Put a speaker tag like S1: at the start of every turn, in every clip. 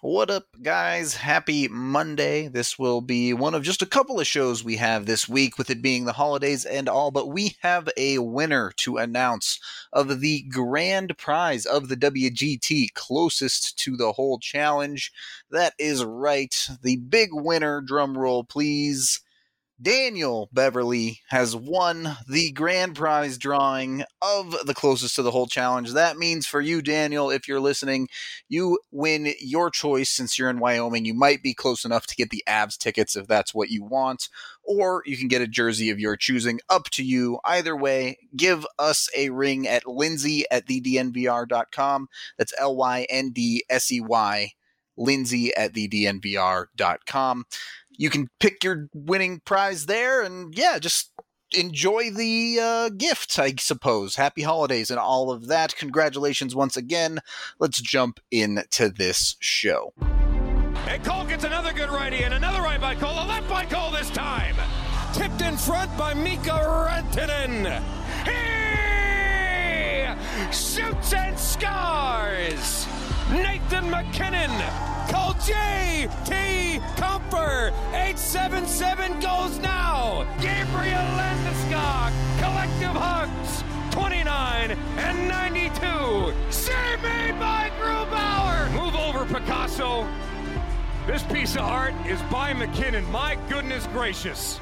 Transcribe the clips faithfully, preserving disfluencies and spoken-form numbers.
S1: What up, guys? Happy Monday. This will be one of just a couple of shows we have this week, with it being the holidays and all, but we have a winner to announce of the grand prize of the W G T closest to the whole challenge. That is right. The big winner, drum roll please, Daniel Beverly has won the grand prize drawing of the closest to the whole challenge. That means for you, Daniel, if you're listening, you win your choice. Since you're in Wyoming, you might be close enough to get the Avs tickets if that's what you want, or you can get a jersey of your choosing. Up to you. Either way, give us a ring at Lindsay at the D N V R dot com. That's L Y N D S E Y, Lindsay at the D N V R dot com. You can pick your winning prize there, and yeah, just enjoy the uh, gift, I suppose. Happy holidays and all of that. Congratulations once again. Let's jump into this show.
S2: And Cole gets another good righty, and another right by Cole, a left by Cole this time. Tipped in front by Mika Rantanen. He shoots and scores. Nathan MacKinnon. Call J T Comfer. eight seven seven goes now. Gabriel Landeskog. Collective hugs. twenty-nine and ninety-two. Save made by Grubauer. Move over, Picasso. This piece of art is by MacKinnon. My goodness gracious.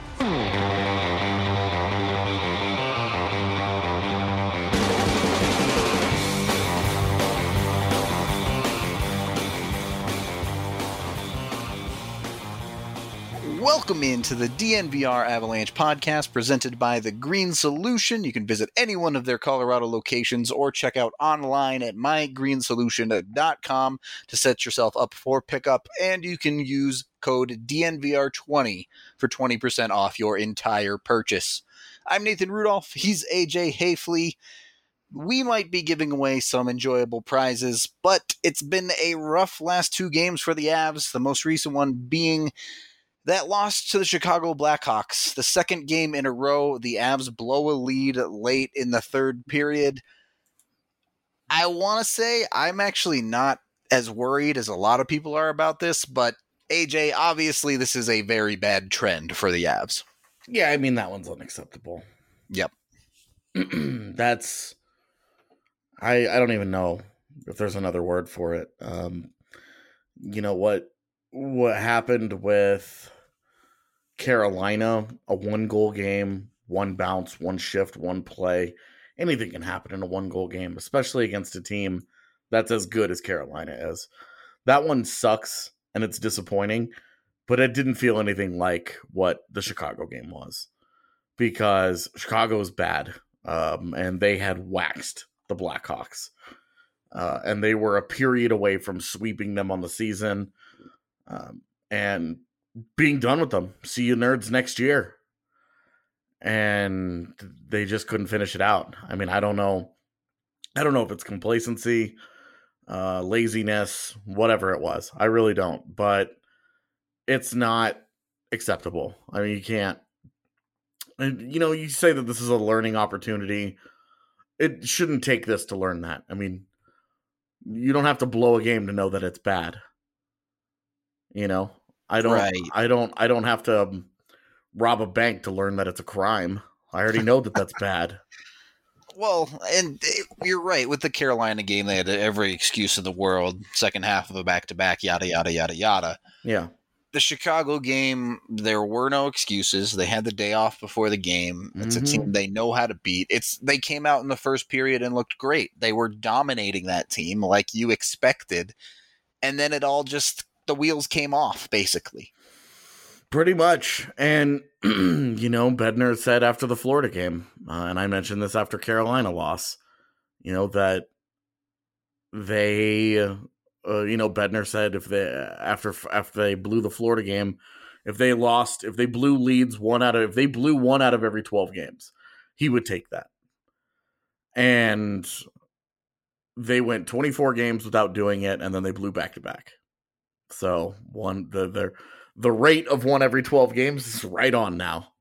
S1: Welcome into the D N V R Avalanche podcast presented by The Green Solution. You can visit any one of their Colorado locations or check out online at my green solution dot com to set yourself up for pickup, and you can use code D N V R twenty for twenty percent off your entire purchase. I'm Nathan Rudolph. He's A J Hayfley. We might be giving away some enjoyable prizes, but it's been a rough last two games for the Avs, the most recent one being that loss to the Chicago Blackhawks. The second game in a row, the Avs blow a lead late in the third period. I want to say I'm actually not as worried as a lot of people are about this, but A J, obviously this is a very bad trend for the Avs.
S3: Yeah, I mean, that one's unacceptable.
S1: Yep.
S3: That's, I I don't even know if there's another word for it. Um, you know, what, what happened with Carolina, a one-goal game, one bounce, one shift, one play. Anything can happen in a one-goal game, especially against a team that's as good as Carolina is. That one sucks, and it's disappointing, but it didn't feel anything like what the Chicago game was, because Chicago is bad, um, and they had waxed the Blackhawks, uh, and they were a period away from sweeping them on the season, um, and being done with them. See you nerds next year. And they just couldn't finish it out. I mean, I don't know. I don't know if it's complacency, uh, laziness, whatever it was. I really don't. But it's not acceptable. I mean, you can't. And, you know, you say that this is a learning opportunity. It shouldn't take this to learn that. I mean, you don't have to blow a game to know that it's bad. You know? I don't, right. I don't, I don't have to um, rob a bank to learn that it's a crime. I already know that that's bad.
S1: Well, and you're right. With the Carolina game, they had every excuse in the world. Second half of a back-to-back, yada, yada, yada, yada.
S3: Yeah.
S1: The Chicago game, there were no excuses. They had the day off before the game. It's mm-hmm. a team they know how to beat. It's They came out in the first period and looked great. They were dominating that team like you expected. And then it all just... the wheels came off, basically.
S3: Pretty much. And, you know, Bednar said after the Florida game, uh, and I mentioned this after Carolina loss, you know, that they, uh, you know, Bednar said if they, after, after they blew the Florida game, if they lost, if they blew leads one out of, if they blew one out of every twelve games, he would take that. And they went twenty-four games without doing it, and then they blew back to back. So one the the the rate of one every twelve games is right on now.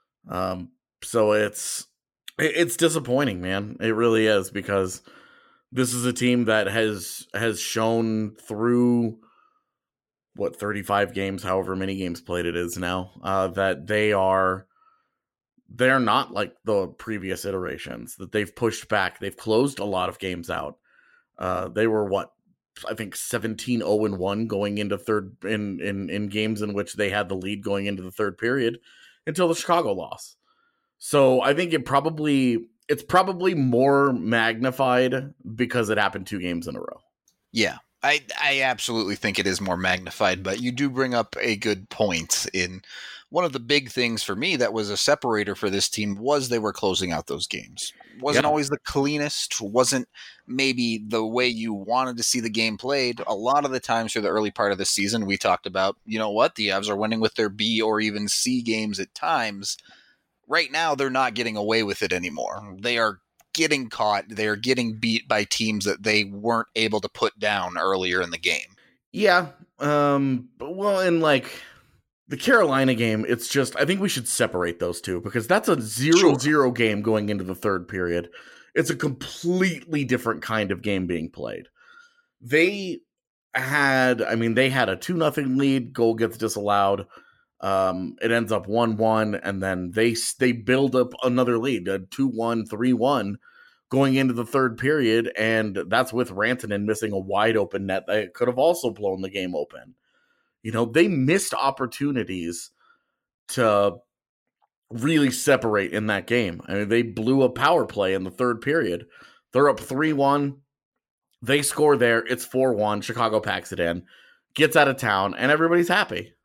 S3: Um, so it's it's disappointing, man. It really is, because this is a team that has has shown through what thirty-five games, however many games played it is now, uh, that they are they're not like the previous iterations, that they've pushed back. They've closed a lot of games out. Uh, they were what I think seventeen oh and one going into third in, in in games in which they had the lead going into the third period until the Chicago loss. So I think it probably it's probably more magnified because it happened two games in a row.
S1: Yeah. I, I absolutely think it is more magnified, but you do bring up a good point. In one of the big things for me that was a separator for this team was they were closing out those games. Wasn't
S3: Yeah.
S1: always the cleanest, wasn't maybe the way you wanted to see the game played. A lot of the times through the early part of the season, we talked about, you know what, the Avs are winning with their B or even C games at times. Right now, they're not getting away with it anymore. They are getting caught. They're getting beat by teams that they weren't able to put down earlier in the game.
S3: Yeah. Um, but well, in like the Carolina game, it's just, I think we should separate those two because that's a zero
S1: Sure.
S3: zero game going into the third period. It's a completely different kind of game being played. They had, I mean, they had a two nothing lead, goal gets disallowed. Um, it ends up one one, and then they they build up another lead, a two one, three one, going into the third period, and that's with Rantanen missing a wide open net that could have also blown the game open. You know, they missed opportunities to really separate in that game. I mean, they blew a power play in the third period. They're up three one. They score there. It's four one. Chicago packs it in, gets out of town, and everybody's happy.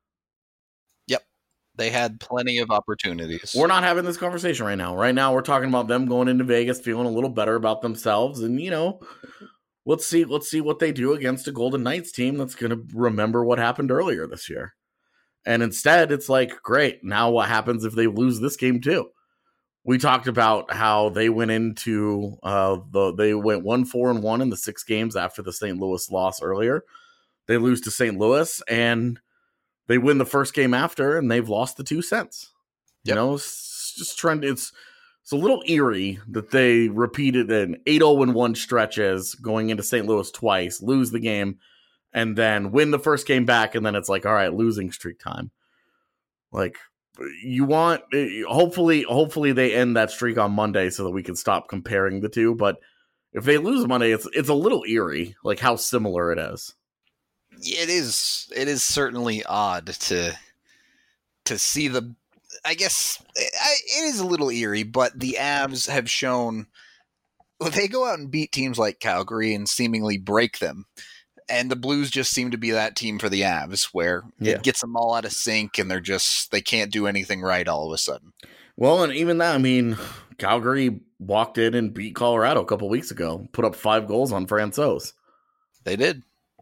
S1: They had plenty of opportunities.
S3: We're not having this conversation right now. Right now, we're talking about them going into Vegas, feeling a little better about themselves, and you know, let's see, let's see what they do against a Golden Knights team that's going to remember what happened earlier this year. And instead, it's like, great. Now, what happens if they lose this game too? We talked about how they went into uh, the they went one four and one in the six games after the Saint Louis loss earlier. They lose to Saint Louis and they win the first game after, and they've lost the two since.
S1: Yep.
S3: You know, it's just trying to, it's, it's a little eerie that they repeated an eight oh and one stretches going into Saint Louis twice, lose the game, and then win the first game back, and then it's like, all right, losing streak time. Like, you want, hopefully, hopefully they end that streak on Monday so that we can stop comparing the two, but if they lose Monday, it's it's a little eerie, like how similar it is.
S1: It is. It is certainly odd to to see the. I guess it is a little eerie, but the Avs have shown well, they go out and beat teams like Calgary and seemingly break them, and the Blues just seem to be that team for the Avs, where
S3: Yeah.
S1: it gets them all out of sync, and they're just they can't do anything right all of a sudden.
S3: Well, and even that, I mean, Calgary walked in and beat Colorado a couple weeks ago, put up five goals on Francouz.
S1: They did.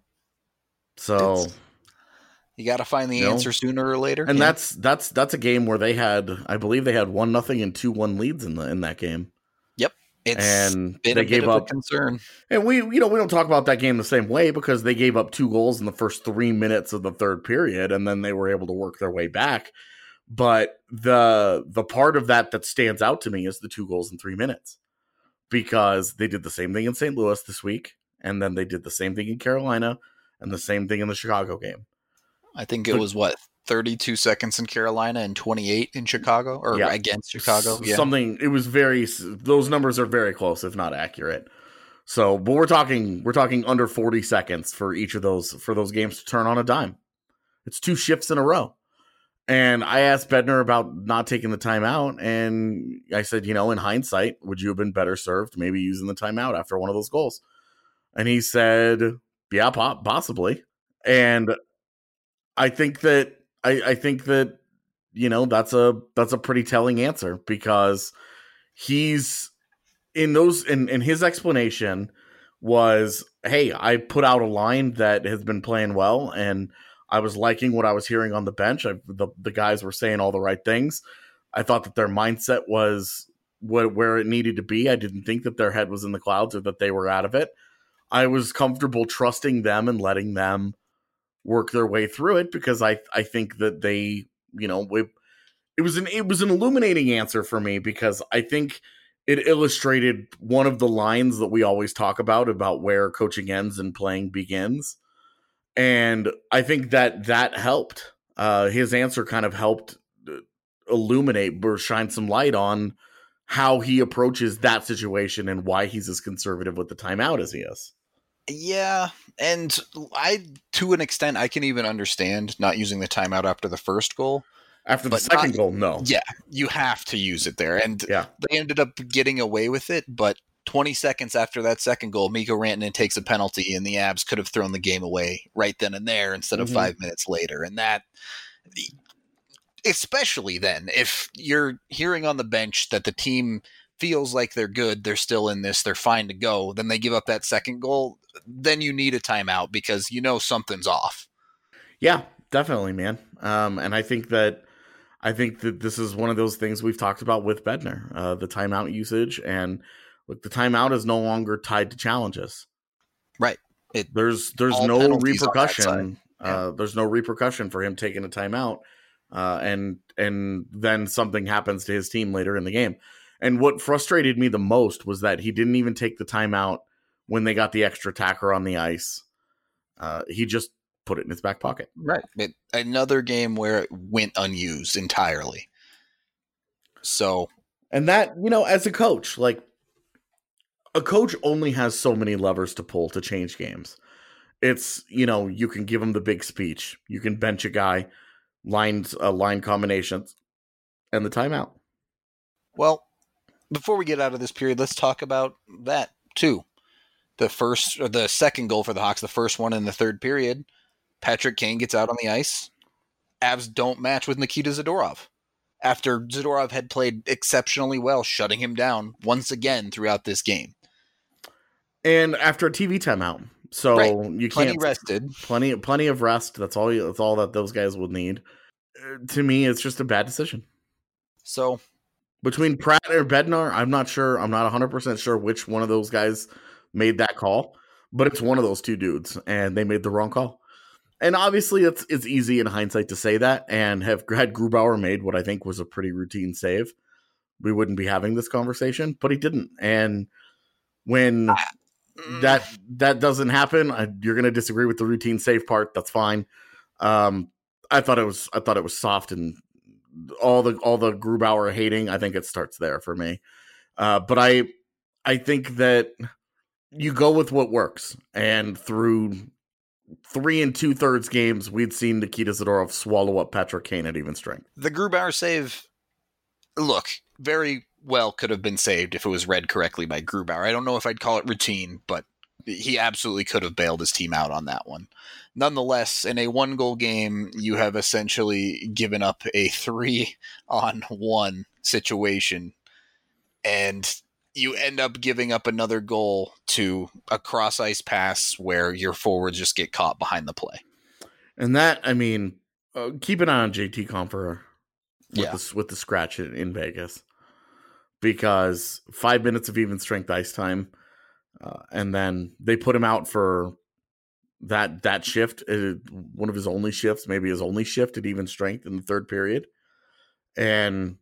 S3: So
S1: It's, you got to find the
S3: You know,
S1: answer sooner or later,
S3: and
S1: yeah.
S3: that's that's that's a game where they had, I believe they had one nothing and two one leads in the in that game.
S1: Yep. It's
S3: and
S1: been
S3: they
S1: a
S3: gave
S1: bit of
S3: up
S1: a concern.
S3: And we, you know, we don't talk about that game the same way because they gave up two goals in the first three minutes of the third period, and then they were able to work their way back. But the the part of that that stands out to me is the two goals in three minutes, because they did the same thing in Saint Louis this week, and then they did the same thing in Carolina, and the same thing in the Chicago game.
S1: I think it
S3: But-
S1: was what thirty-two seconds in Carolina and twenty-eight in Chicago, or
S3: Yeah.
S1: against Chicago.
S3: S-
S1: Yeah,
S3: Something, it was very, those numbers are very close, if not accurate. So, but we're talking, we're talking under forty seconds for each of those, for those games to turn on a dime. It's two shifts in a row. And I asked Bednar about not taking the timeout, and I said, you know, in hindsight, would you have been better served maybe using the timeout after one of those goals? And he said, yeah, po- possibly. And I think that, I, I think that, you know, that's a, that's a pretty telling answer, because he's in those, in, in his explanation was, hey, I put out a line that has been playing well, and I was liking what I was hearing on the bench. I, the the guys were saying all the right things. I thought that their mindset was wh- where it needed to be. I didn't think that their head was in the clouds or that they were out of it. I was comfortable trusting them and letting them work their way through it, because I I think that they, you know, we, it was an it was an illuminating answer for me, because I think it illustrated one of the lines that we always talk about, about where coaching ends and playing begins. And I think that that helped. Uh, his answer kind of helped illuminate or shine some light on how he approaches that situation and why he's as conservative with the timeout as he is.
S1: Yeah, and I, to an extent, I can even understand not using the timeout after the first goal.
S3: After the second not, goal, no.
S1: Yeah, you have to use it there. And
S3: yeah.
S1: they ended up getting away with it, but twenty seconds after that second goal, Mikko Rantanen takes a penalty, and the Abs could have thrown the game away right then and there instead of mm-hmm. five minutes later. And that, especially then, if you're hearing on the bench that the team feels like they're good, they're still in this, they're fine to go, then they give up that second goal, then you need a timeout because you know something's off.
S3: Yeah, definitely, man. Um, and I think that I think that this is one of those things we've talked about with Bednar, uh, the timeout usage, and look, the timeout is no longer tied to challenges.
S1: Right. It,
S3: there's there's no repercussion. Yeah. Uh, there's no repercussion for him taking a timeout, uh, and and then something happens to his team later in the game. And what frustrated me the most was that he didn't even take the timeout when they got the extra attacker on the ice. Uh, he just put it in his back pocket.
S1: Right. It, another game where it went unused entirely. So,
S3: and that, you know, as a coach, like a coach only has so many levers to pull to change games. It's, you know, you can give him the big speech. You can bench a guy, lines, uh, line combinations, and the timeout.
S1: Well, before we get out of this period, let's talk about that too. The first or the second goal for the Hawks, the first one in the third period, Patrick Kane gets out on the ice. Avs don't match with Nikita Zadorov after Zadorov had played exceptionally well, shutting him down once again throughout this game.
S3: And after a T V timeout. So
S1: right.
S3: you
S1: plenty
S3: can't
S1: rested.
S3: Plenty plenty of rest. That's all you, that's all that those guys would need. Uh, to me, it's just a bad decision.
S1: So
S3: between Pratt or Bednar, I'm not sure. I'm not one hundred percent sure which one of those guys made that call, but it's one of those two dudes, and they made the wrong call. And obviously, it's it's easy in hindsight to say that, and have had Grubauer made what I think was a pretty routine save, we wouldn't be having this conversation, but he didn't. And when that that doesn't happen, I, you're going to disagree with the routine save part. That's fine. Um, I thought it was I thought it was soft, and all the all the Grubauer hating, I think it starts there for me. Uh, but I I think that you go with what works, and through three and two thirds games, we'd seen Nikita Zadorov swallow up Patrick Kane at even strength.
S1: The Grubauer save, look, very well could have been saved if it was read correctly by Grubauer. I don't know if I'd call it routine, but he absolutely could have bailed his team out on that one. Nonetheless, in a one-goal game, you have essentially given up a three-on-one situation, and you end up giving up another goal to a cross-ice pass where your forwards just get caught behind the play.
S3: And that, I mean, uh, keep an eye on J T Compher with,
S1: yeah.
S3: the, with the scratch in, in Vegas. Because five minutes of even strength ice time, uh, and then they put him out for that that shift, uh, one of his only shifts, maybe his only shift at even strength in the third period. And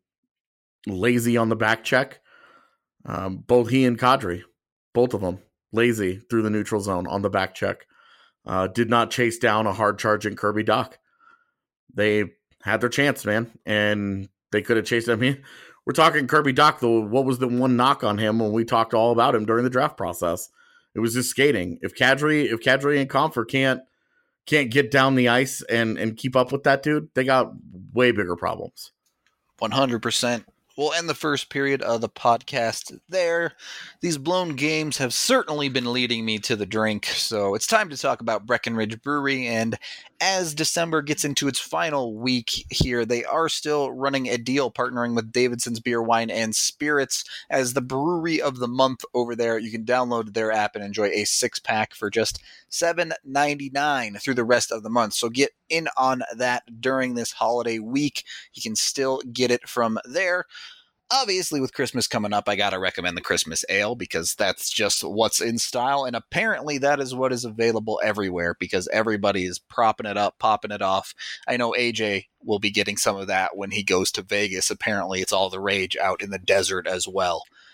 S3: lazy on the back check. Um, both he and Kadri, both of them, lazy through the neutral zone on the back check. Uh, did not chase down a hard charging Kirby Dach. They had their chance, man, and they could have chased him. I mean, we're talking Kirby Dach, though. What was the one knock on him when we talked all about him during the draft process? It was his skating. If Kadri, if Kadri and Compher can't can't get down the ice and and keep up with that dude, they got way bigger problems.
S1: one hundred percent. We'll end the first period of the podcast there. These blown games have certainly been leading me to the drink, so it's time to talk about Breckenridge Brewery. And as December gets into its final week here, they are still running a deal partnering with Davidson's Beer, Wine, and Spirits as the brewery of the month over there. You can download their app and enjoy a six-pack for just seven ninety-nine through the rest of the month. So get in on that during this holiday week. You can still get it from there. Obviously, with Christmas coming up, I got to recommend the Christmas Ale because that's just what's in style. And apparently that is what is available everywhere because everybody is propping it up, popping it off. I know A J will be getting some of that when he goes to Vegas. Apparently it's all the rage out in the desert as well.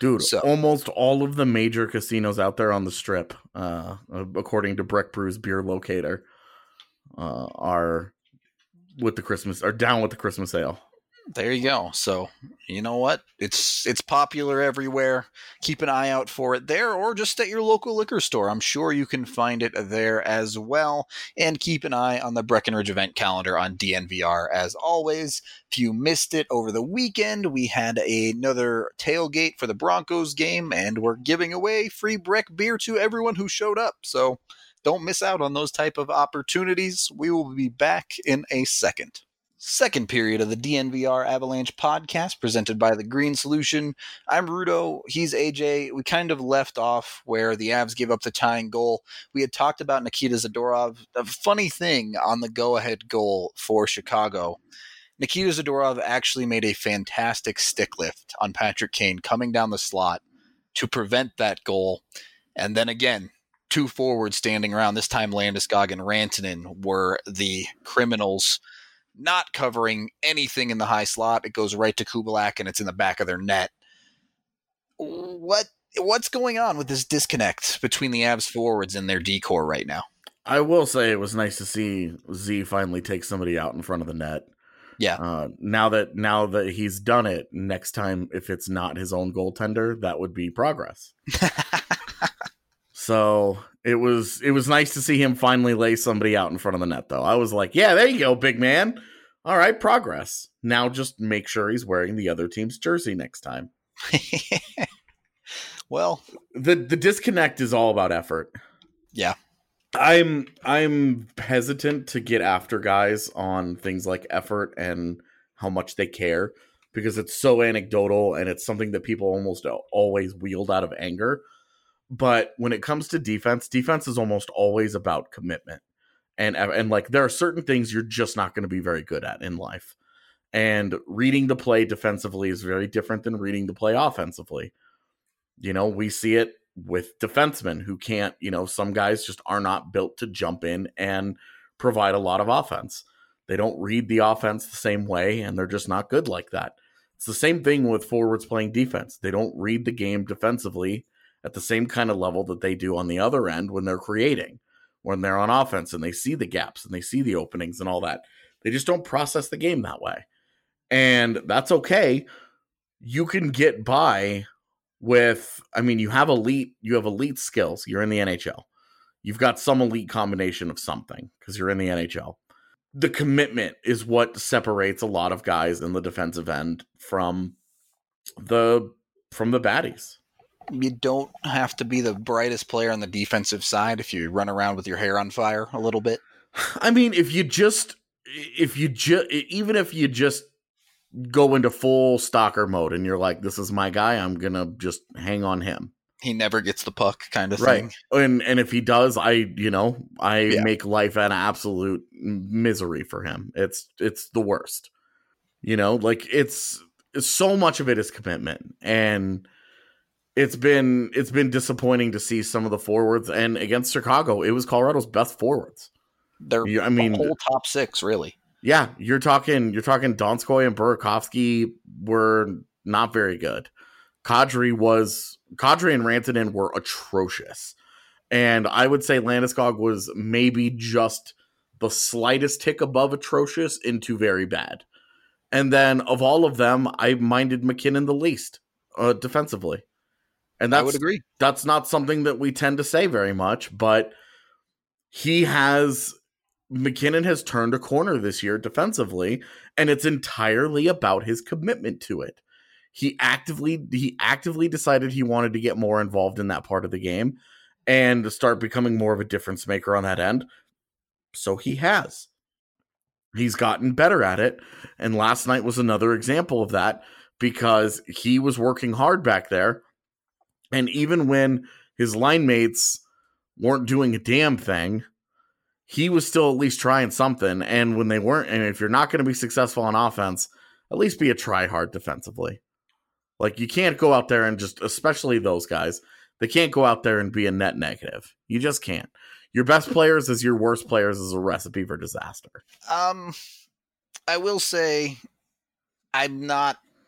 S3: Dude,
S1: So
S3: almost all of the major casinos out there on the strip, uh, according to Breck Brew's Beer Locator, uh, are with the Christmas are down with the Christmas ale.
S1: there you go. So you know what? It's it's popular everywhere. Keep an eye out for it there, or just at your local liquor store. I'm sure you can find it there as well. And keep an eye on the Breckenridge event calendar on D N V R as always. If you missed it over the weekend, we had another tailgate for the Broncos game, and we're giving away free Breck beer to everyone who showed up. So don't miss out on those type of opportunities. We will be back in a second. Second period of the D N V R Avalanche podcast presented by The Green Solution. I'm Rudo. He's A J. We kind of left off where the Avs gave up the tying goal. We had talked about Nikita Zadorov. A funny thing on the go-ahead goal for Chicago, Nikita Zadorov actually made a fantastic stick lift on Patrick Kane coming down the slot to prevent that goal. And then again, two forwards standing around, this time Landeskog and Rantanen, were the criminals not covering anything in the high slot. It goes right to Kubalak, and it's in the back of their net. What What's going on with this disconnect between the Avs forwards and their D-core right now?
S3: I will say it was nice to see Z finally take somebody out in front of the net.
S1: Yeah.
S3: Uh, now that now that he's done it, next time if it's not his own goaltender, that would be progress. So it was it was nice to see him finally lay somebody out in front of the net, though. I was like, yeah, there you go, big man. All right, progress. Now just make sure he's wearing the other team's jersey next time.
S1: Well,
S3: the the disconnect is all about effort.
S1: Yeah.
S3: I'm I'm hesitant to get after guys on things like effort and how much they care, because it's so anecdotal and it's something that people almost always wield out of anger. But when it comes to defense, defense is almost always about commitment. And, and like, there are certain things you're just not going to be very good at in life. And reading the play defensively is very different than reading the play offensively. You know, we see it with defensemen who can't, you know, some guys just are not built to jump in and provide a lot of offense. They don't read the offense the same way, and they're just not good like that. It's the same thing with forwards playing defense. They don't read the game defensively at the same kind of level that they do on the other end when they're creating, when they're on offense and they see the gaps and they see the openings and all that. They just don't process the game that way. And that's okay. You can get by with, I mean, you have elite, you have elite skills. You're in the N H L. You've got some elite combination of something because you're in the N H L. The commitment is what separates a lot of guys in the defensive end from the, from the baddies.
S1: You don't have to be the brightest player on the defensive side if you run around with your hair on fire a little bit.
S3: I mean, if you just, if you just, even if you just go into full stalker mode and you're like, this is my guy, I'm going to just hang on him.
S1: He never gets the puck kind of
S3: right.
S1: thing.
S3: And and if he does, I, you know, I
S1: yeah.
S3: make life an absolute misery for him. It's, it's the worst, you know, like it's, it's so much of it is commitment. And It's been it's been disappointing to see some of the forwards, and against Chicago, it was Colorado's best forwards.
S1: They're
S3: I mean,
S1: the whole top six, really.
S3: Yeah, you're talking you're talking Donskoy and Burakovsky were not very good. Kadri was Kadri and Rantanen were atrocious, and I would say Landeskog was maybe just the slightest tick above atrocious into very bad. And then of all of them, I minded McKinnon the least uh, defensively. And that's,
S1: I would agree.
S3: That's not something that we tend to say very much, but he has, McKinnon has turned a corner this year defensively, and it's entirely about his commitment to it. He actively, he actively decided he wanted to get more involved in that part of the game and start becoming more of a difference maker on that end. So he has. He's gotten better at it, and last night was another example of that because he was working hard back there. And even when his line mates weren't doing a damn thing, he was still at least trying something. And when they weren't, and if you're not going to be successful on offense, at least be a try hard defensively. Like, you can't go out there and just, especially those guys, they can't go out there and be a net negative. You just can't. Your best players as your worst players is a recipe for disaster.
S1: Um, I will say I'm not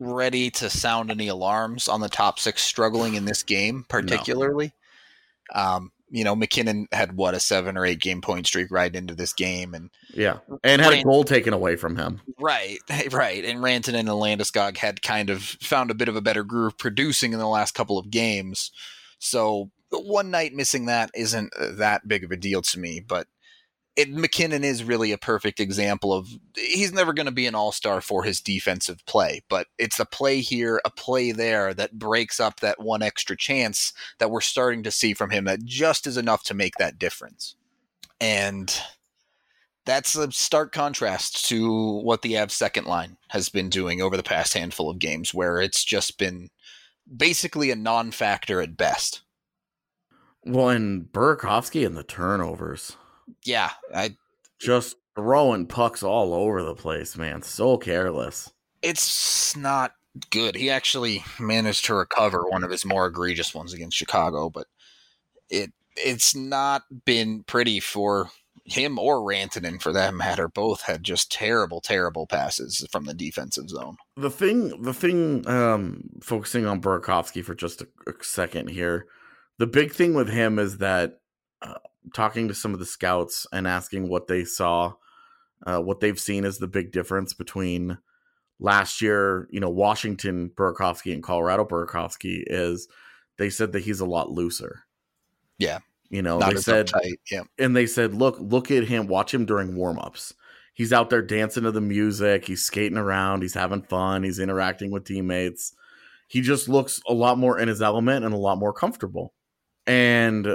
S1: ready to sound any alarms on the top six struggling in this game, particularly. No. Um, you know, McKinnon had what, a seven or eight game point streak right into this game, and
S3: yeah, and had Rant- a goal taken away from him.
S1: Right, right. And Rantanen and Landeskog had kind of found a bit of a better groove producing in the last couple of games. So one night missing that isn't that big of a deal to me, but it, McKinnon is really a perfect example of, he's never going to be an all-star for his defensive play, but it's a play here, a play there that breaks up that one extra chance that we're starting to see from him that just is enough to make that difference. And that's a stark contrast to what the Avs second line has been doing over the past handful of games, where it's just been basically a non-factor at best.
S3: Well, and Burakovsky and the turnovers.
S1: Yeah, I
S3: just throwing pucks all over the place, man. So careless.
S1: It's not good. He actually managed to recover one of his more egregious ones against Chicago, but it it's not been pretty for him or Rantanen, for that matter. Both had just terrible, terrible passes from the defensive zone.
S3: The thing, the thing, um, focusing on Burakovsky for just a, a second here, the big thing with him is that uh, talking to some of the scouts and asking what they saw, uh, what they've seen as the big difference between last year, you know, Washington Burakovsky and Colorado Burakovsky, is they said that he's a lot looser.
S1: Yeah.
S3: You know,
S1: Not
S3: they said,
S1: uptight. Yeah.
S3: And they said, look, look at him, watch him during warmups. He's out there dancing to the music. He's skating around. He's having fun. He's interacting with teammates. He just looks a lot more in his element and a lot more comfortable. And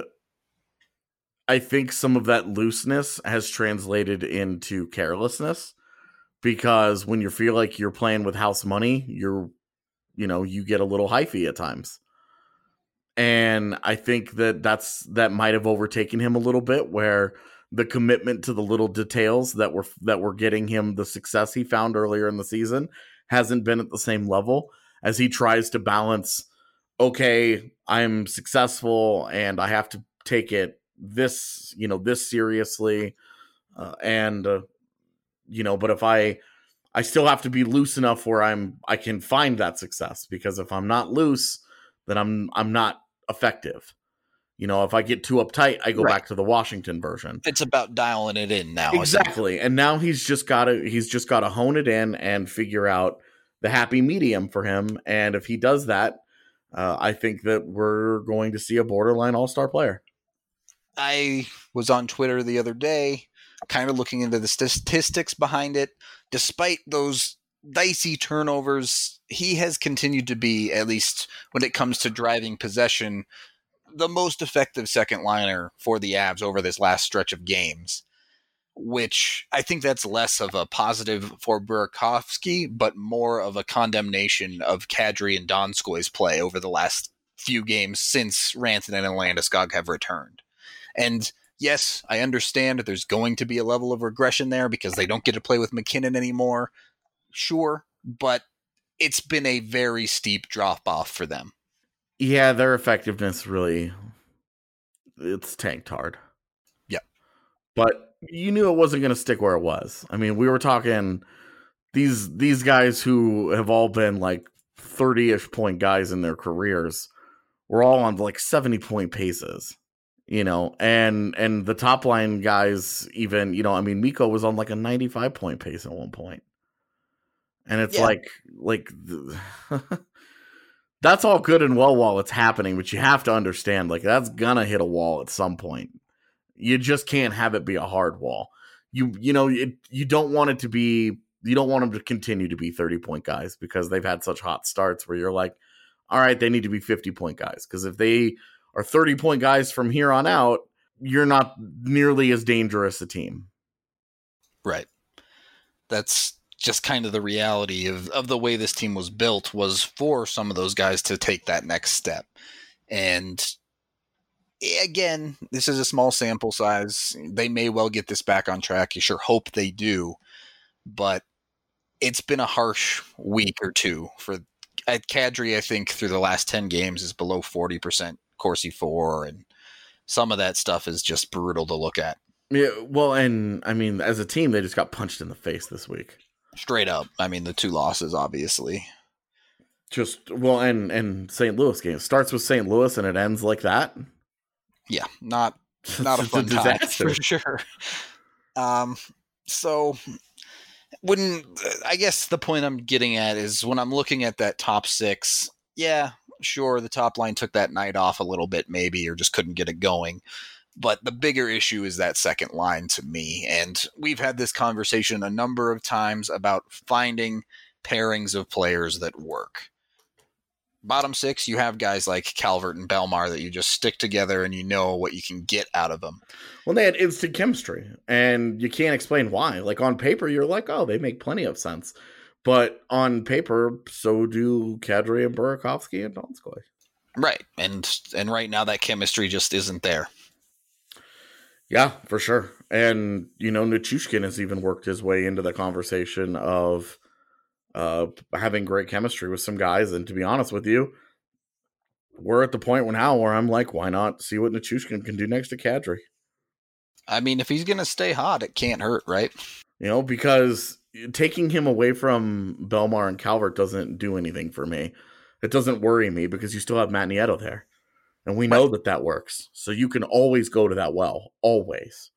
S3: I think some of that looseness has translated into carelessness, because when you feel like you're playing with house money, you're, you know, you get a little hyphy at times. And I think that that's, that might have overtaken him a little bit, where the commitment to the little details that were, that were getting him the success he found earlier in the season hasn't been at the same level, as he tries to balance, okay, I'm successful and I have to take it this, you know, this seriously. Uh, and, uh, you know, but if I, I still have to be loose enough where I'm, I can find that success, because if I'm not loose, then I'm, I'm not effective. You know, if I get too uptight, I go right back to the Washington version.
S1: It's about dialing it in now.
S3: Exactly. And now he's just got to, he's just got to hone it in and figure out the happy medium for him. And if he does that, uh, I think that we're going to see a borderline all-star player.
S1: I was on Twitter the other day, kind of looking into the statistics behind it. Despite those dicey turnovers, he has continued to be, at least when it comes to driving possession, the most effective second liner for the Avs over this last stretch of games, which I think that's less of a positive for Burakovsky, but more of a condemnation of Kadri and Donskoy's play over the last few games since Rantanen and Landeskog have returned. And yes, I understand there's going to be a level of regression there because they don't get to play with McKinnon anymore. Sure, but it's been a very steep drop-off for them.
S3: Yeah, their effectiveness really, it's tanked hard.
S1: Yeah.
S3: But you knew it wasn't going to stick where it was. I mean, we were talking these these guys who have all been like thirty-ish point guys in their careers were all on like seventy point paces, you know, and and the top line guys even, you know, I mean, Mikko was on like a ninety-five point pace at one point. And it's yeah. like, like, that's all good and well while it's happening, but you have to understand, like, that's gonna hit a wall at some point. You just can't have it be a hard wall. You, you know, it, you don't want it to be, you don't want them to continue to be thirty point guys because they've had such hot starts where you're like, all right, they need to be fifty point guys. Because if they are thirty point guys from here on out, you're not nearly as dangerous a team.
S1: Right. That's just kind of the reality of, of the way this team was built, was for some of those guys to take that next step. And again, this is a small sample size. They may well get this back on track. You sure hope they do. But it's been a harsh week or two for at Kadri. I think through the last ten games is below forty percent Corsi four, and some of that stuff is just brutal to look at.
S3: Yeah, well, and I mean, as a team, they just got punched in the face this week.
S1: Straight up. I mean, the two losses, obviously.
S3: Just, well, and, and Saint Louis game. It starts with Saint Louis and it ends like that.
S1: Yeah, not not a fun
S3: a
S1: time
S3: disaster.
S1: for sure. Um, so when I guess the point I'm getting at is when I'm looking at that top six, yeah, sure, the top line took that night off a little bit maybe, or just couldn't get it going. But the bigger issue is that second line to me. And we've had this conversation a number of times about finding pairings of players that work. Bottom six, you have guys like Calvert and Belmar that you just stick together and you know what you can get out of them.
S3: Well, they had instant chemistry, and you can't explain why. Like, on paper, you're like, oh, they make plenty of sense. But on paper, so do Kadri and Burakovsky and Donskoy.
S1: Right. And and right now that chemistry just isn't there.
S3: Yeah, for sure. And, you know, Nichushkin has even worked his way into the conversation of uh, having great chemistry with some guys. And to be honest with you, we're at the point now where I'm like, why not see what Nichushkin can do next to Kadri?
S1: I mean, if he's going to stay hot, it can't hurt, right?
S3: You know, because taking him away from Belmar and Calvert doesn't do anything for me. It doesn't worry me because you still have Matt Nieto there. And we know right. that that works. So you can always go to that well. Always.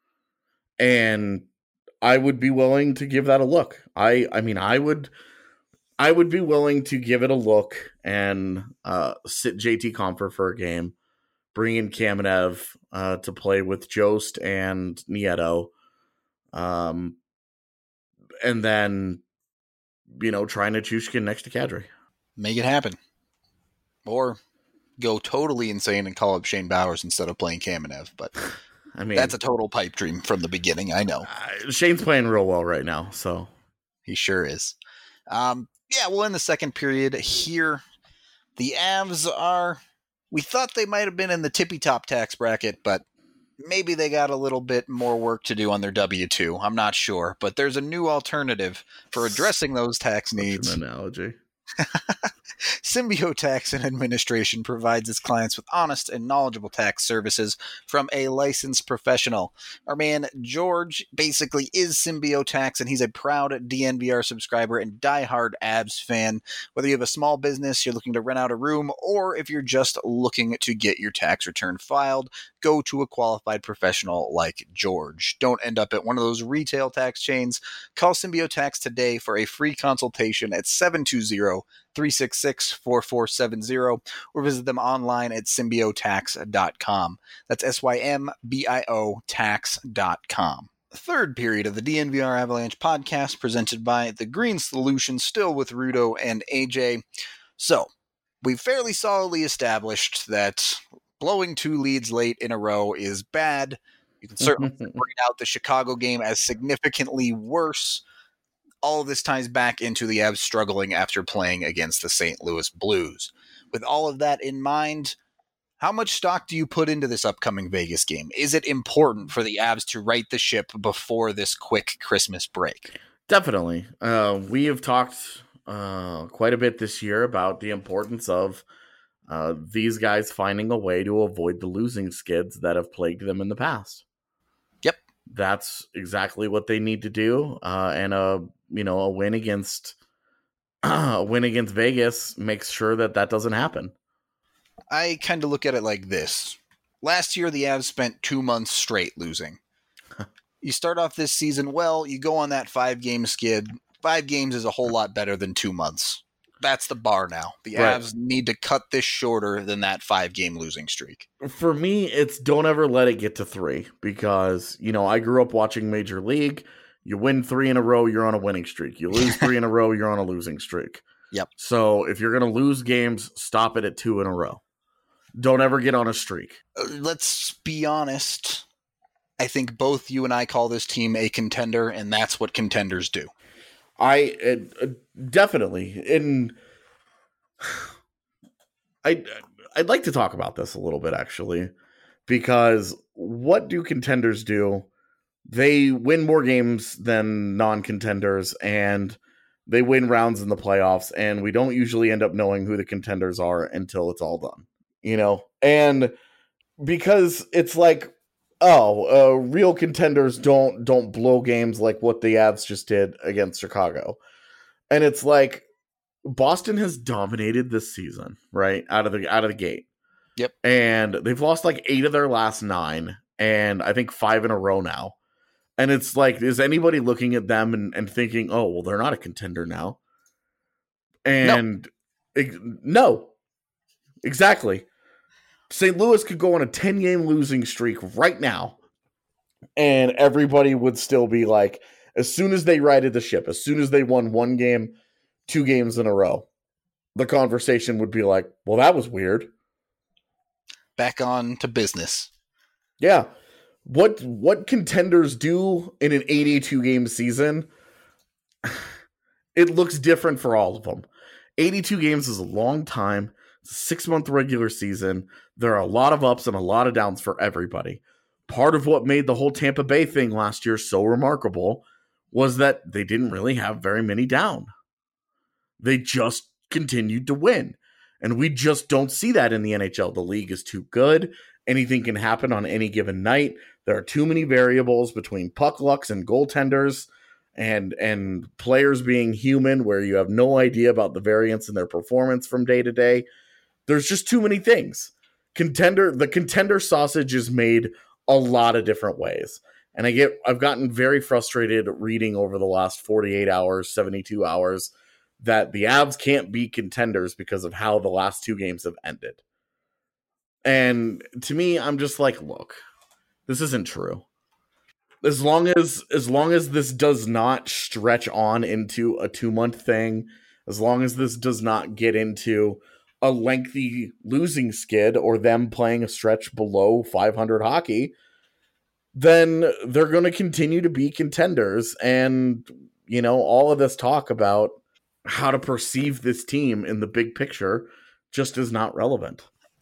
S3: And I would be willing to give that a look. I I mean, I would I would be willing to give it a look and uh, sit J T Compher for a game. Bring in Kamenev uh, to play with Jost and Nieto. Um, and then, you know, try Nichushkin next to Kadri.
S1: Make it happen. Or go totally insane and call up Shane Bowers instead of playing Kamenev. But I mean, that's a total pipe dream from the beginning. I know.
S3: Uh, Shane's playing real well right now, so
S1: he sure is. Um, yeah, well, in the second period here, the Avs are. We thought they might have been in the tippy top tax bracket, but maybe they got a little bit more work to do on their W two. I'm not sure, but there's a new alternative for addressing those tax needs.
S3: Such an analogy.
S1: Symbio Tax and Administration provides its clients with honest and knowledgeable tax services from a licensed professional. Our man George basically is Symbio Tax, and he's a proud D N V R subscriber and diehard Abs fan. Whether you have a small business, you're looking to rent out a room, or if you're just looking to get your tax return filed, go to a qualified professional like George. Don't end up at one of those retail tax chains. Call Symbio Tax today for a free consultation at seven two zero, three six six, four four seven zero or visit them online at symbio tax dot com. That's S Y M B I O tax dot com. Third period of the D N V R Avalanche podcast presented by The Green Solution, still with Rudo and A J. So, we've fairly solidly established that blowing two leads late in a row is bad. You can certainly bring out the Chicago game as significantly worse. All of this ties back into the Avs struggling after playing against the Saint Louis Blues. With all of that in mind, how much stock do you put into this upcoming Vegas game? Is it important for the Avs to right the ship before this quick Christmas break?
S3: Definitely. Uh, we have talked uh, quite a bit this year about the importance of uh, these guys finding a way to avoid the losing skids that have plagued them in the past.
S1: Yep.
S3: That's exactly what they need to do. Uh, and a you know a win against a win against Vegas makes sure that that doesn't happen.
S1: I kind of look at it like this. Last year, the Avs spent two months straight losing. You start off this season well, you go on that five-game skid. Five games is a whole lot better than two months. That's the bar now. The
S3: Right.
S1: Avs need to cut this shorter than that five-game losing streak.
S3: For me, it's don't ever let it get to three because, you know, I grew up watching Major League. You win three in a row, you're on a winning streak. You lose three in a row, you're on a losing streak.
S1: Yep.
S3: So if you're going to lose games, stop it at two in a row. Don't ever get on a streak.
S1: Uh, let's be honest. I think both you and I call this team a contender, and that's what contenders do.
S3: I uh, definitely, and I I'd like to talk about this a little bit actually, because what do contenders do? They win more games than non-contenders, and they win rounds in the playoffs, and we don't usually end up knowing who the contenders are until it's all done, you know? And because it's like, oh, uh, real contenders don't don't blow games like what the Avs just did against Chicago. And it's like, Boston has dominated this season, right? Out of the out of the gate.
S1: Yep.
S3: And they've lost like eight of their last nine, and I think five in a row now. And it's like, is anybody looking at them and, and thinking, oh, well, they're not a contender now? And no, it, no. Exactly. Saint Louis could go on a ten-game losing streak right now, and everybody would still be like, as soon as they righted the ship, as soon as they won one game, two games in a row, the conversation would be like, well, that was weird.
S1: Back on to business.
S3: Yeah. What what contenders do in an eighty-two game season, it looks different for all of them. eighty-two games is a long time. It's a six-month regular season. There are a lot of ups and a lot of downs for everybody. Part of what made the whole Tampa Bay thing last year so remarkable was that they didn't really have very many down. They just continued to win. And we just don't see that in the N H L. The league is too good. Anything can happen on any given night. There are too many variables between puck lucks and goaltenders and and players being human where you have no idea about the variance in their performance from day to day. There's just too many things. Contender, the contender sausage is made a lot of different ways. And I get I've gotten very frustrated reading over the last forty-eight hours, seventy-two hours that the Avs can't be contenders because of how the last two games have ended. And to me, I'm just like, look, this isn't true. As long as as long as this does not stretch on into a two-month thing, as long as this does not get into a lengthy losing skid or them playing a stretch below five hundred hockey, then they're going to continue to be contenders. And, you know, all of this talk about how to perceive this team in the big picture just is not relevant.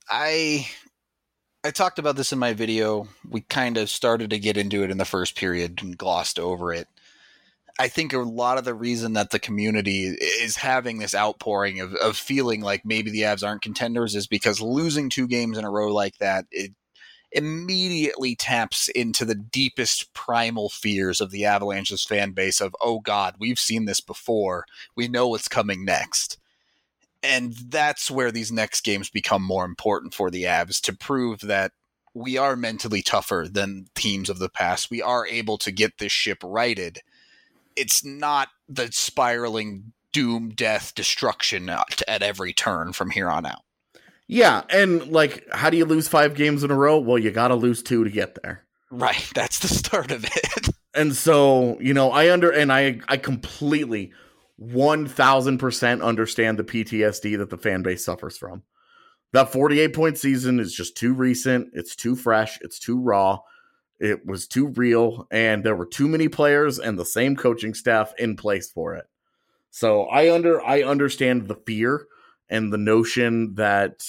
S1: I I talked about this in my video. We kind of started to get into it in the first period and glossed over it. I think a lot of the reason that the community is having this outpouring of, of feeling like maybe the Avs aren't contenders is because losing two games in a row like that, it immediately taps into the deepest primal fears of the Avalanche's fan base of, oh God, we've seen this before. We know what's coming next. And that's where these next games become more important for the Avs, to prove that we are mentally tougher than teams of the past. We are able to get this ship righted. It's not the spiraling doom, death, destruction at every turn from here on out.
S3: Yeah, and like, how do you lose five games in a row? Well, you got to lose two to get there.
S1: Right, that's the start of it.
S3: And so, you know, I under and I I completely one thousand percent understand the P T S D that the fan base suffers from. That forty-eight point season is just too recent. It's too fresh. It's too raw. It was too real. And there were too many players and the same coaching staff in place for it. So I under I understand the fear and the notion that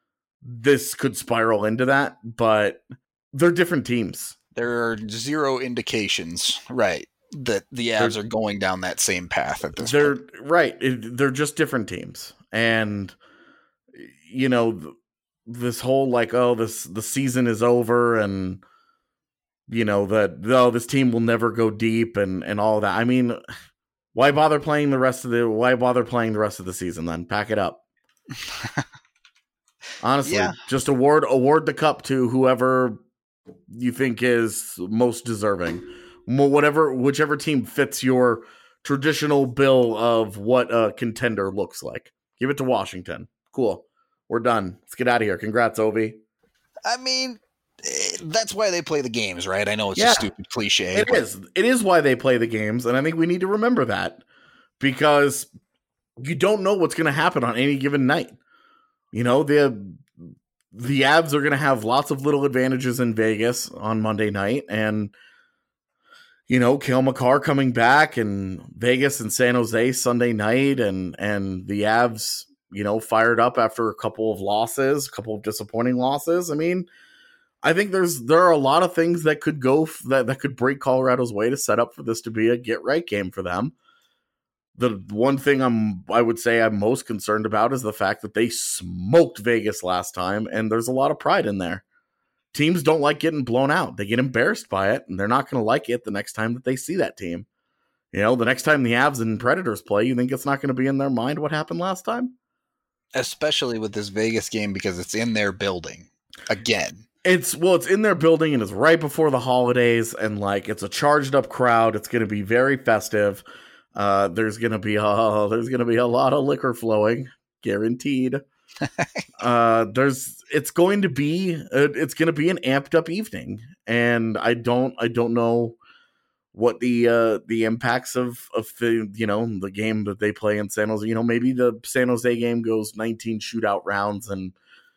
S3: this could spiral into that, but they're different teams.
S1: There are zero indications, right, that the Avs they're, are going down that same path at this
S3: they're,
S1: point.
S3: Right. It, they're just different teams. And, you know, this whole like, oh, this the season is over and, you know, that, oh, this team will never go deep and, and all that. I mean, why bother playing the rest of the, why bother playing the rest of the season then? Pack it up. Honestly, yeah. Just award, award the cup to whoever you think is most deserving. Whatever, whichever team fits your traditional bill of what a contender looks like. Give it to Washington. Cool. We're done. Let's get out of here. Congrats, Ovi.
S1: I mean, that's why they play the games, right? I know it's
S3: yeah,
S1: a stupid cliche.
S3: It
S1: but...
S3: is. It is why they play the games, and I think we need to remember that because you don't know what's going to happen on any given night. You know, the the Avs are going to have lots of little advantages in Vegas on Monday night, and you know, Cale Makar coming back, and Vegas and San Jose Sunday night, and and the Avs, you know, fired up after a couple of losses, a couple of disappointing losses. I mean, I think there's there are a lot of things that could go f- that that could break Colorado's way to set up for this to be a get right game for them. The one thing I'm I would say I'm most concerned about is the fact that they smoked Vegas last time, and there's a lot of pride in there. Teams don't like getting blown out. They get embarrassed by it, and they're not going to like it the next time that they see that team. You know, the next time the Avs and Predators play, you think it's not going to be in their mind what happened last time?
S1: Especially with this Vegas game because it's in their building again.
S3: It's well, it's in their building and it's right before the holidays, and like it's a charged up crowd. It's going to be very festive. Uh, there's going to be a there's going to be a lot of liquor flowing, guaranteed. uh, there's it's going to be uh, it's going to be an amped up evening, and I don't I don't know what the uh, the impacts of of the you know the game that they play in San Jose. You know, maybe the San Jose game goes nineteen shootout rounds and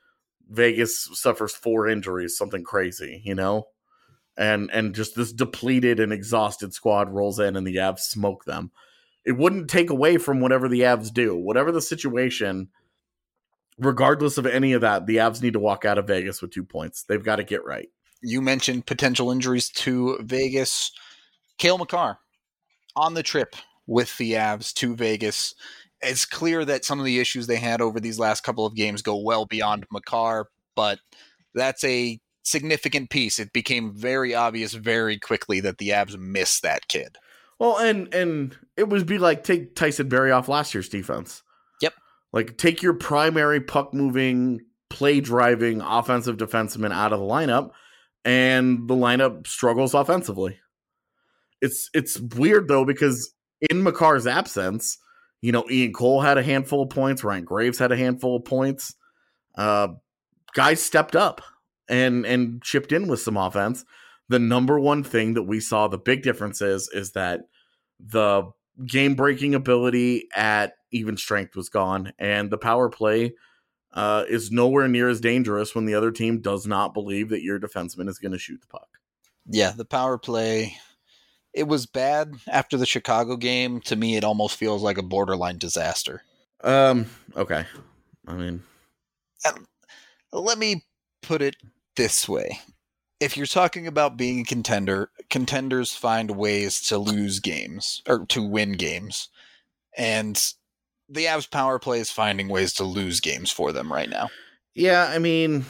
S3: Vegas suffers four injuries, something crazy, you know, and and just this depleted and exhausted squad rolls in and the Avs smoke them. It wouldn't take away from whatever the Avs do, whatever the situation. Regardless of any of that, the Avs need to walk out of Vegas with two points. They've got to get right.
S1: You mentioned potential injuries to Vegas. Cale Makar on the trip with the Avs to Vegas. It's clear that some of the issues they had over these last couple of games go well beyond Makar, but that's a significant piece. It became very obvious very quickly that the Avs miss that kid.
S3: Well, and and it would be like take Tyson Barrie off last year's defense.
S1: Yep.
S3: Like take your primary puck-moving, play-driving offensive defenseman out of the lineup, and the lineup struggles offensively. It's it's weird, though, because in Makar's absence, you know, Ian Cole had a handful of points. Ryan Graves had a handful of points. Uh, guys stepped up and and chipped in with some offense. The number one thing that we saw, the big difference is, is that the game-breaking ability at even strength was gone, and the power play uh, is nowhere near as dangerous when the other team does not believe that your defenseman is going to shoot the puck.
S1: Yeah, the power play, it was bad after the Chicago game. To me, it almost feels like a borderline disaster.
S3: Um. Okay. I mean,
S1: and let me put it this way. If you're talking about being a contender, contenders find ways to lose games or to win games. And the Avs power play is finding ways to lose games for them right now.
S3: Yeah, I mean,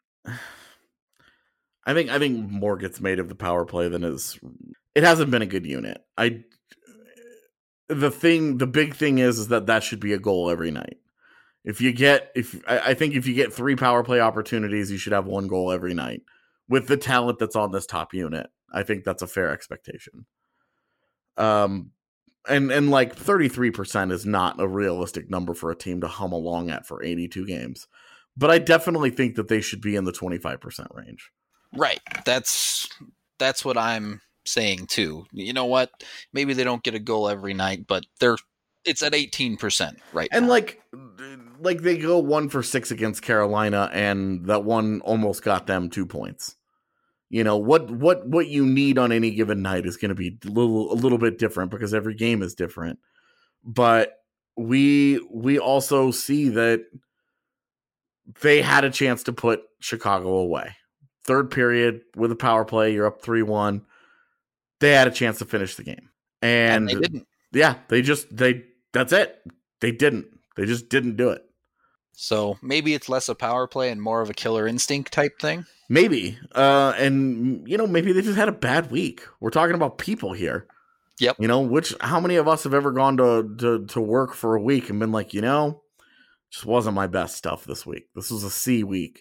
S3: I think I think more gets made of the power play than is. It hasn't been a good unit. I the thing, the big thing is, is that that should be a goal every night. If you get, if I, I think if you get three power play opportunities, you should have one goal every night. With the talent that's on this top unit, I think that's a fair expectation. Um, and and like thirty-three percent is not a realistic number for a team to hum along at for eighty-two games. But I definitely think that they should be in the twenty-five percent range.
S1: Right. That's that's what I'm saying too. You know what? Maybe they don't get a goal every night, but they're it's at eighteen percent right
S3: and
S1: now.
S3: like like they go one for six against Carolina, and that one almost got them two points. You know, what what what you need on any given night is going to be a little a little bit different because every game is different. But we we also see that they had a chance to put Chicago away. Third period with a power play, you're up three one. They had a chance to finish the game. And,
S1: and they didn't.
S3: Yeah, they just they that's it. They didn't. They just didn't do it.
S1: So maybe it's less a power play and more of a killer instinct type thing.
S3: Maybe. Uh, and, you know, maybe they just had a bad week. We're talking about people here.
S1: Yep.
S3: You know, which, how many of us have ever gone to, to, to work for a week and been like, you know, just wasn't my best stuff this week. This was a C week.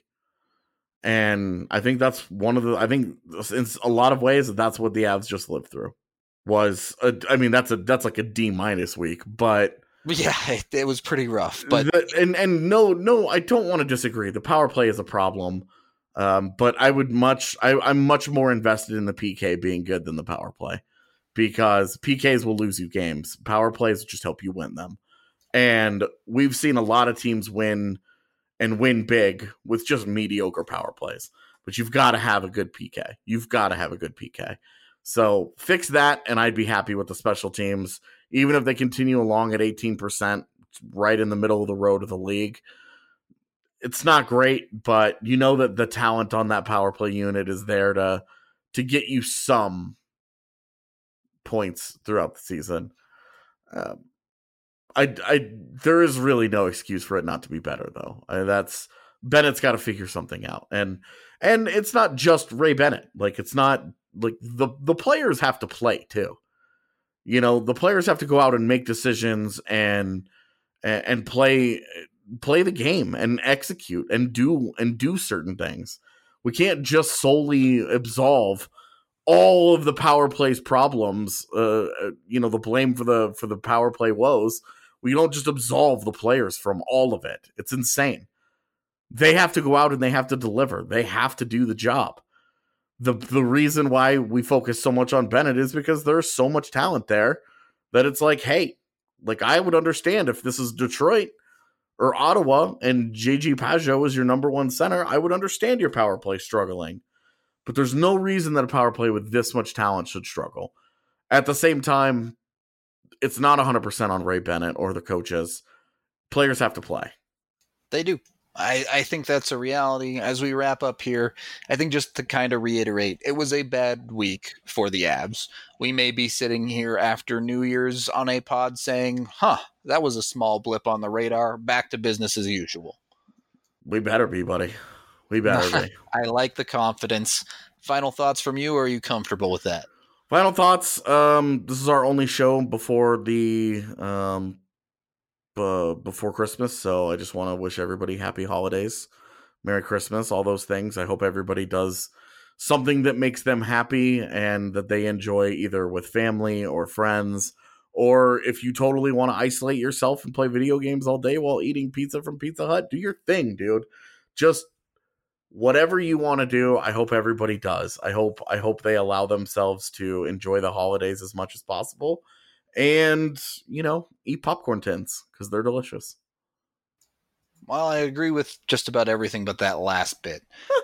S3: And I think that's one of the, I think in a lot of ways, that's what the Avs just lived through. Was, a, I mean, that's a, that's like a D minus week, but.
S1: Yeah, it, it was pretty rough. But
S3: the, and, and no, no, I don't want to disagree. The power play is a problem. Um, but I would much, I, I'm much more invested in the P K being good than the power play, because P Ks will lose you games. Power plays just help you win them. And we've seen a lot of teams win and win big with just mediocre power plays, but you've got to have a good P K. You've got to have a good P K. So fix that, and I'd be happy with the special teams, even if they continue along at eighteen percent, right in the middle of the road of the league. It's not great, but you know that the talent on that power play unit is there to to get you some points throughout the season. Um, I, I, there is really no excuse for it not to be better, though. I, that's Bennett's got to figure something out, and and it's not just Ray Bennett. Like it's not like the the players have to play too. You know, the players have to go out and make decisions and and play play the game and execute and do and do certain things. We can't just solely absolve all of the power play's problems, uh, you know, the blame for the for the power play woes. We don't just absolve the players from all of it. It's insane. They have to go out and they have to deliver. They have to do the job. The the reason why we focus so much on Bennett is because there's so much talent there that it's like, hey, like I would understand if this is Detroit or Ottawa and J G Pageau is your number one center, I would understand your power play struggling. But there's no reason that a power play with this much talent should struggle. At the same time, it's not one hundred percent on Ray Bennett or the coaches. Players have to play.
S1: They do. I, I think that's a reality. As we wrap up here, I think just to kind of reiterate, it was a bad week for the Avs. We may be sitting here after New Year's on a pod saying, huh, that was a small blip on the radar. Back to business as usual.
S3: We better be, buddy. We better be.
S1: I like the confidence. Final thoughts from you, or are you comfortable with that?
S3: Final thoughts. Um, this is our only show before the um, b- before Christmas, so I just want to wish everybody happy holidays, Merry Christmas, all those things. I hope everybody does something that makes them happy and that they enjoy either with family or friends, or if you totally want to isolate yourself and play video games all day while eating pizza from Pizza Hut, do your thing, dude. Just whatever you want to do, I hope everybody does. I hope I hope they allow themselves to enjoy the holidays as much as possible. And, you know, eat popcorn tins because they're delicious.
S1: Well, I agree with just about everything but that last bit.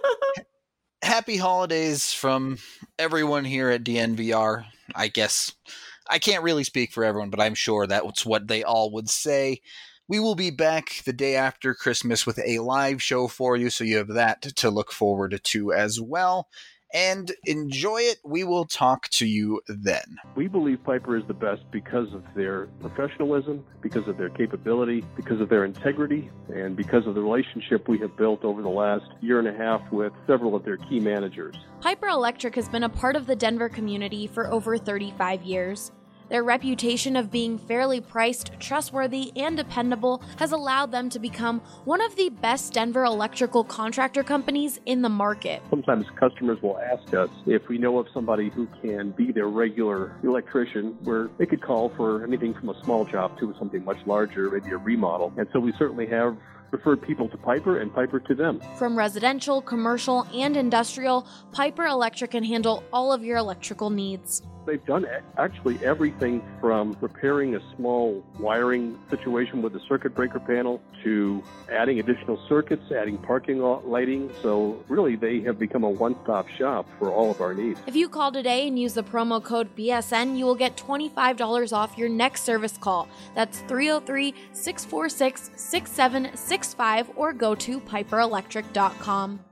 S1: Happy holidays from everyone here at D N V R. I guess I can't really speak for everyone, but I'm sure that's what they all would say. We will be back the day after Christmas with a live show for you, so you have that to look forward to as well. And enjoy it. We will talk to you then.
S4: We believe Piper is the best because of their professionalism, because of their capability, because of their integrity, and because of the relationship we have built over the last year and a half with several of their key managers.
S5: Piper Electric has been a part of the Denver community for over thirty-five years. Their reputation of being fairly priced, trustworthy, and dependable has allowed them to become one of the best Denver electrical contractor companies in the market.
S4: Sometimes customers will ask us if we know of somebody who can be their regular electrician, where they could call for anything from a small job to something much larger, maybe a remodel. And so we certainly have referred people to Piper and Piper to them.
S5: From residential, commercial, and industrial, Piper Electric can handle all of your electrical needs.
S4: They've done actually everything from repairing a small wiring situation with a circuit breaker panel to adding additional circuits, adding parking lighting. So really, they have become a one-stop shop for all of our needs.
S5: If you call today and use the promo code B S N, you will get twenty-five dollars off your next service call. That's three oh three, six four six, six seven six five or go to piper electric dot com.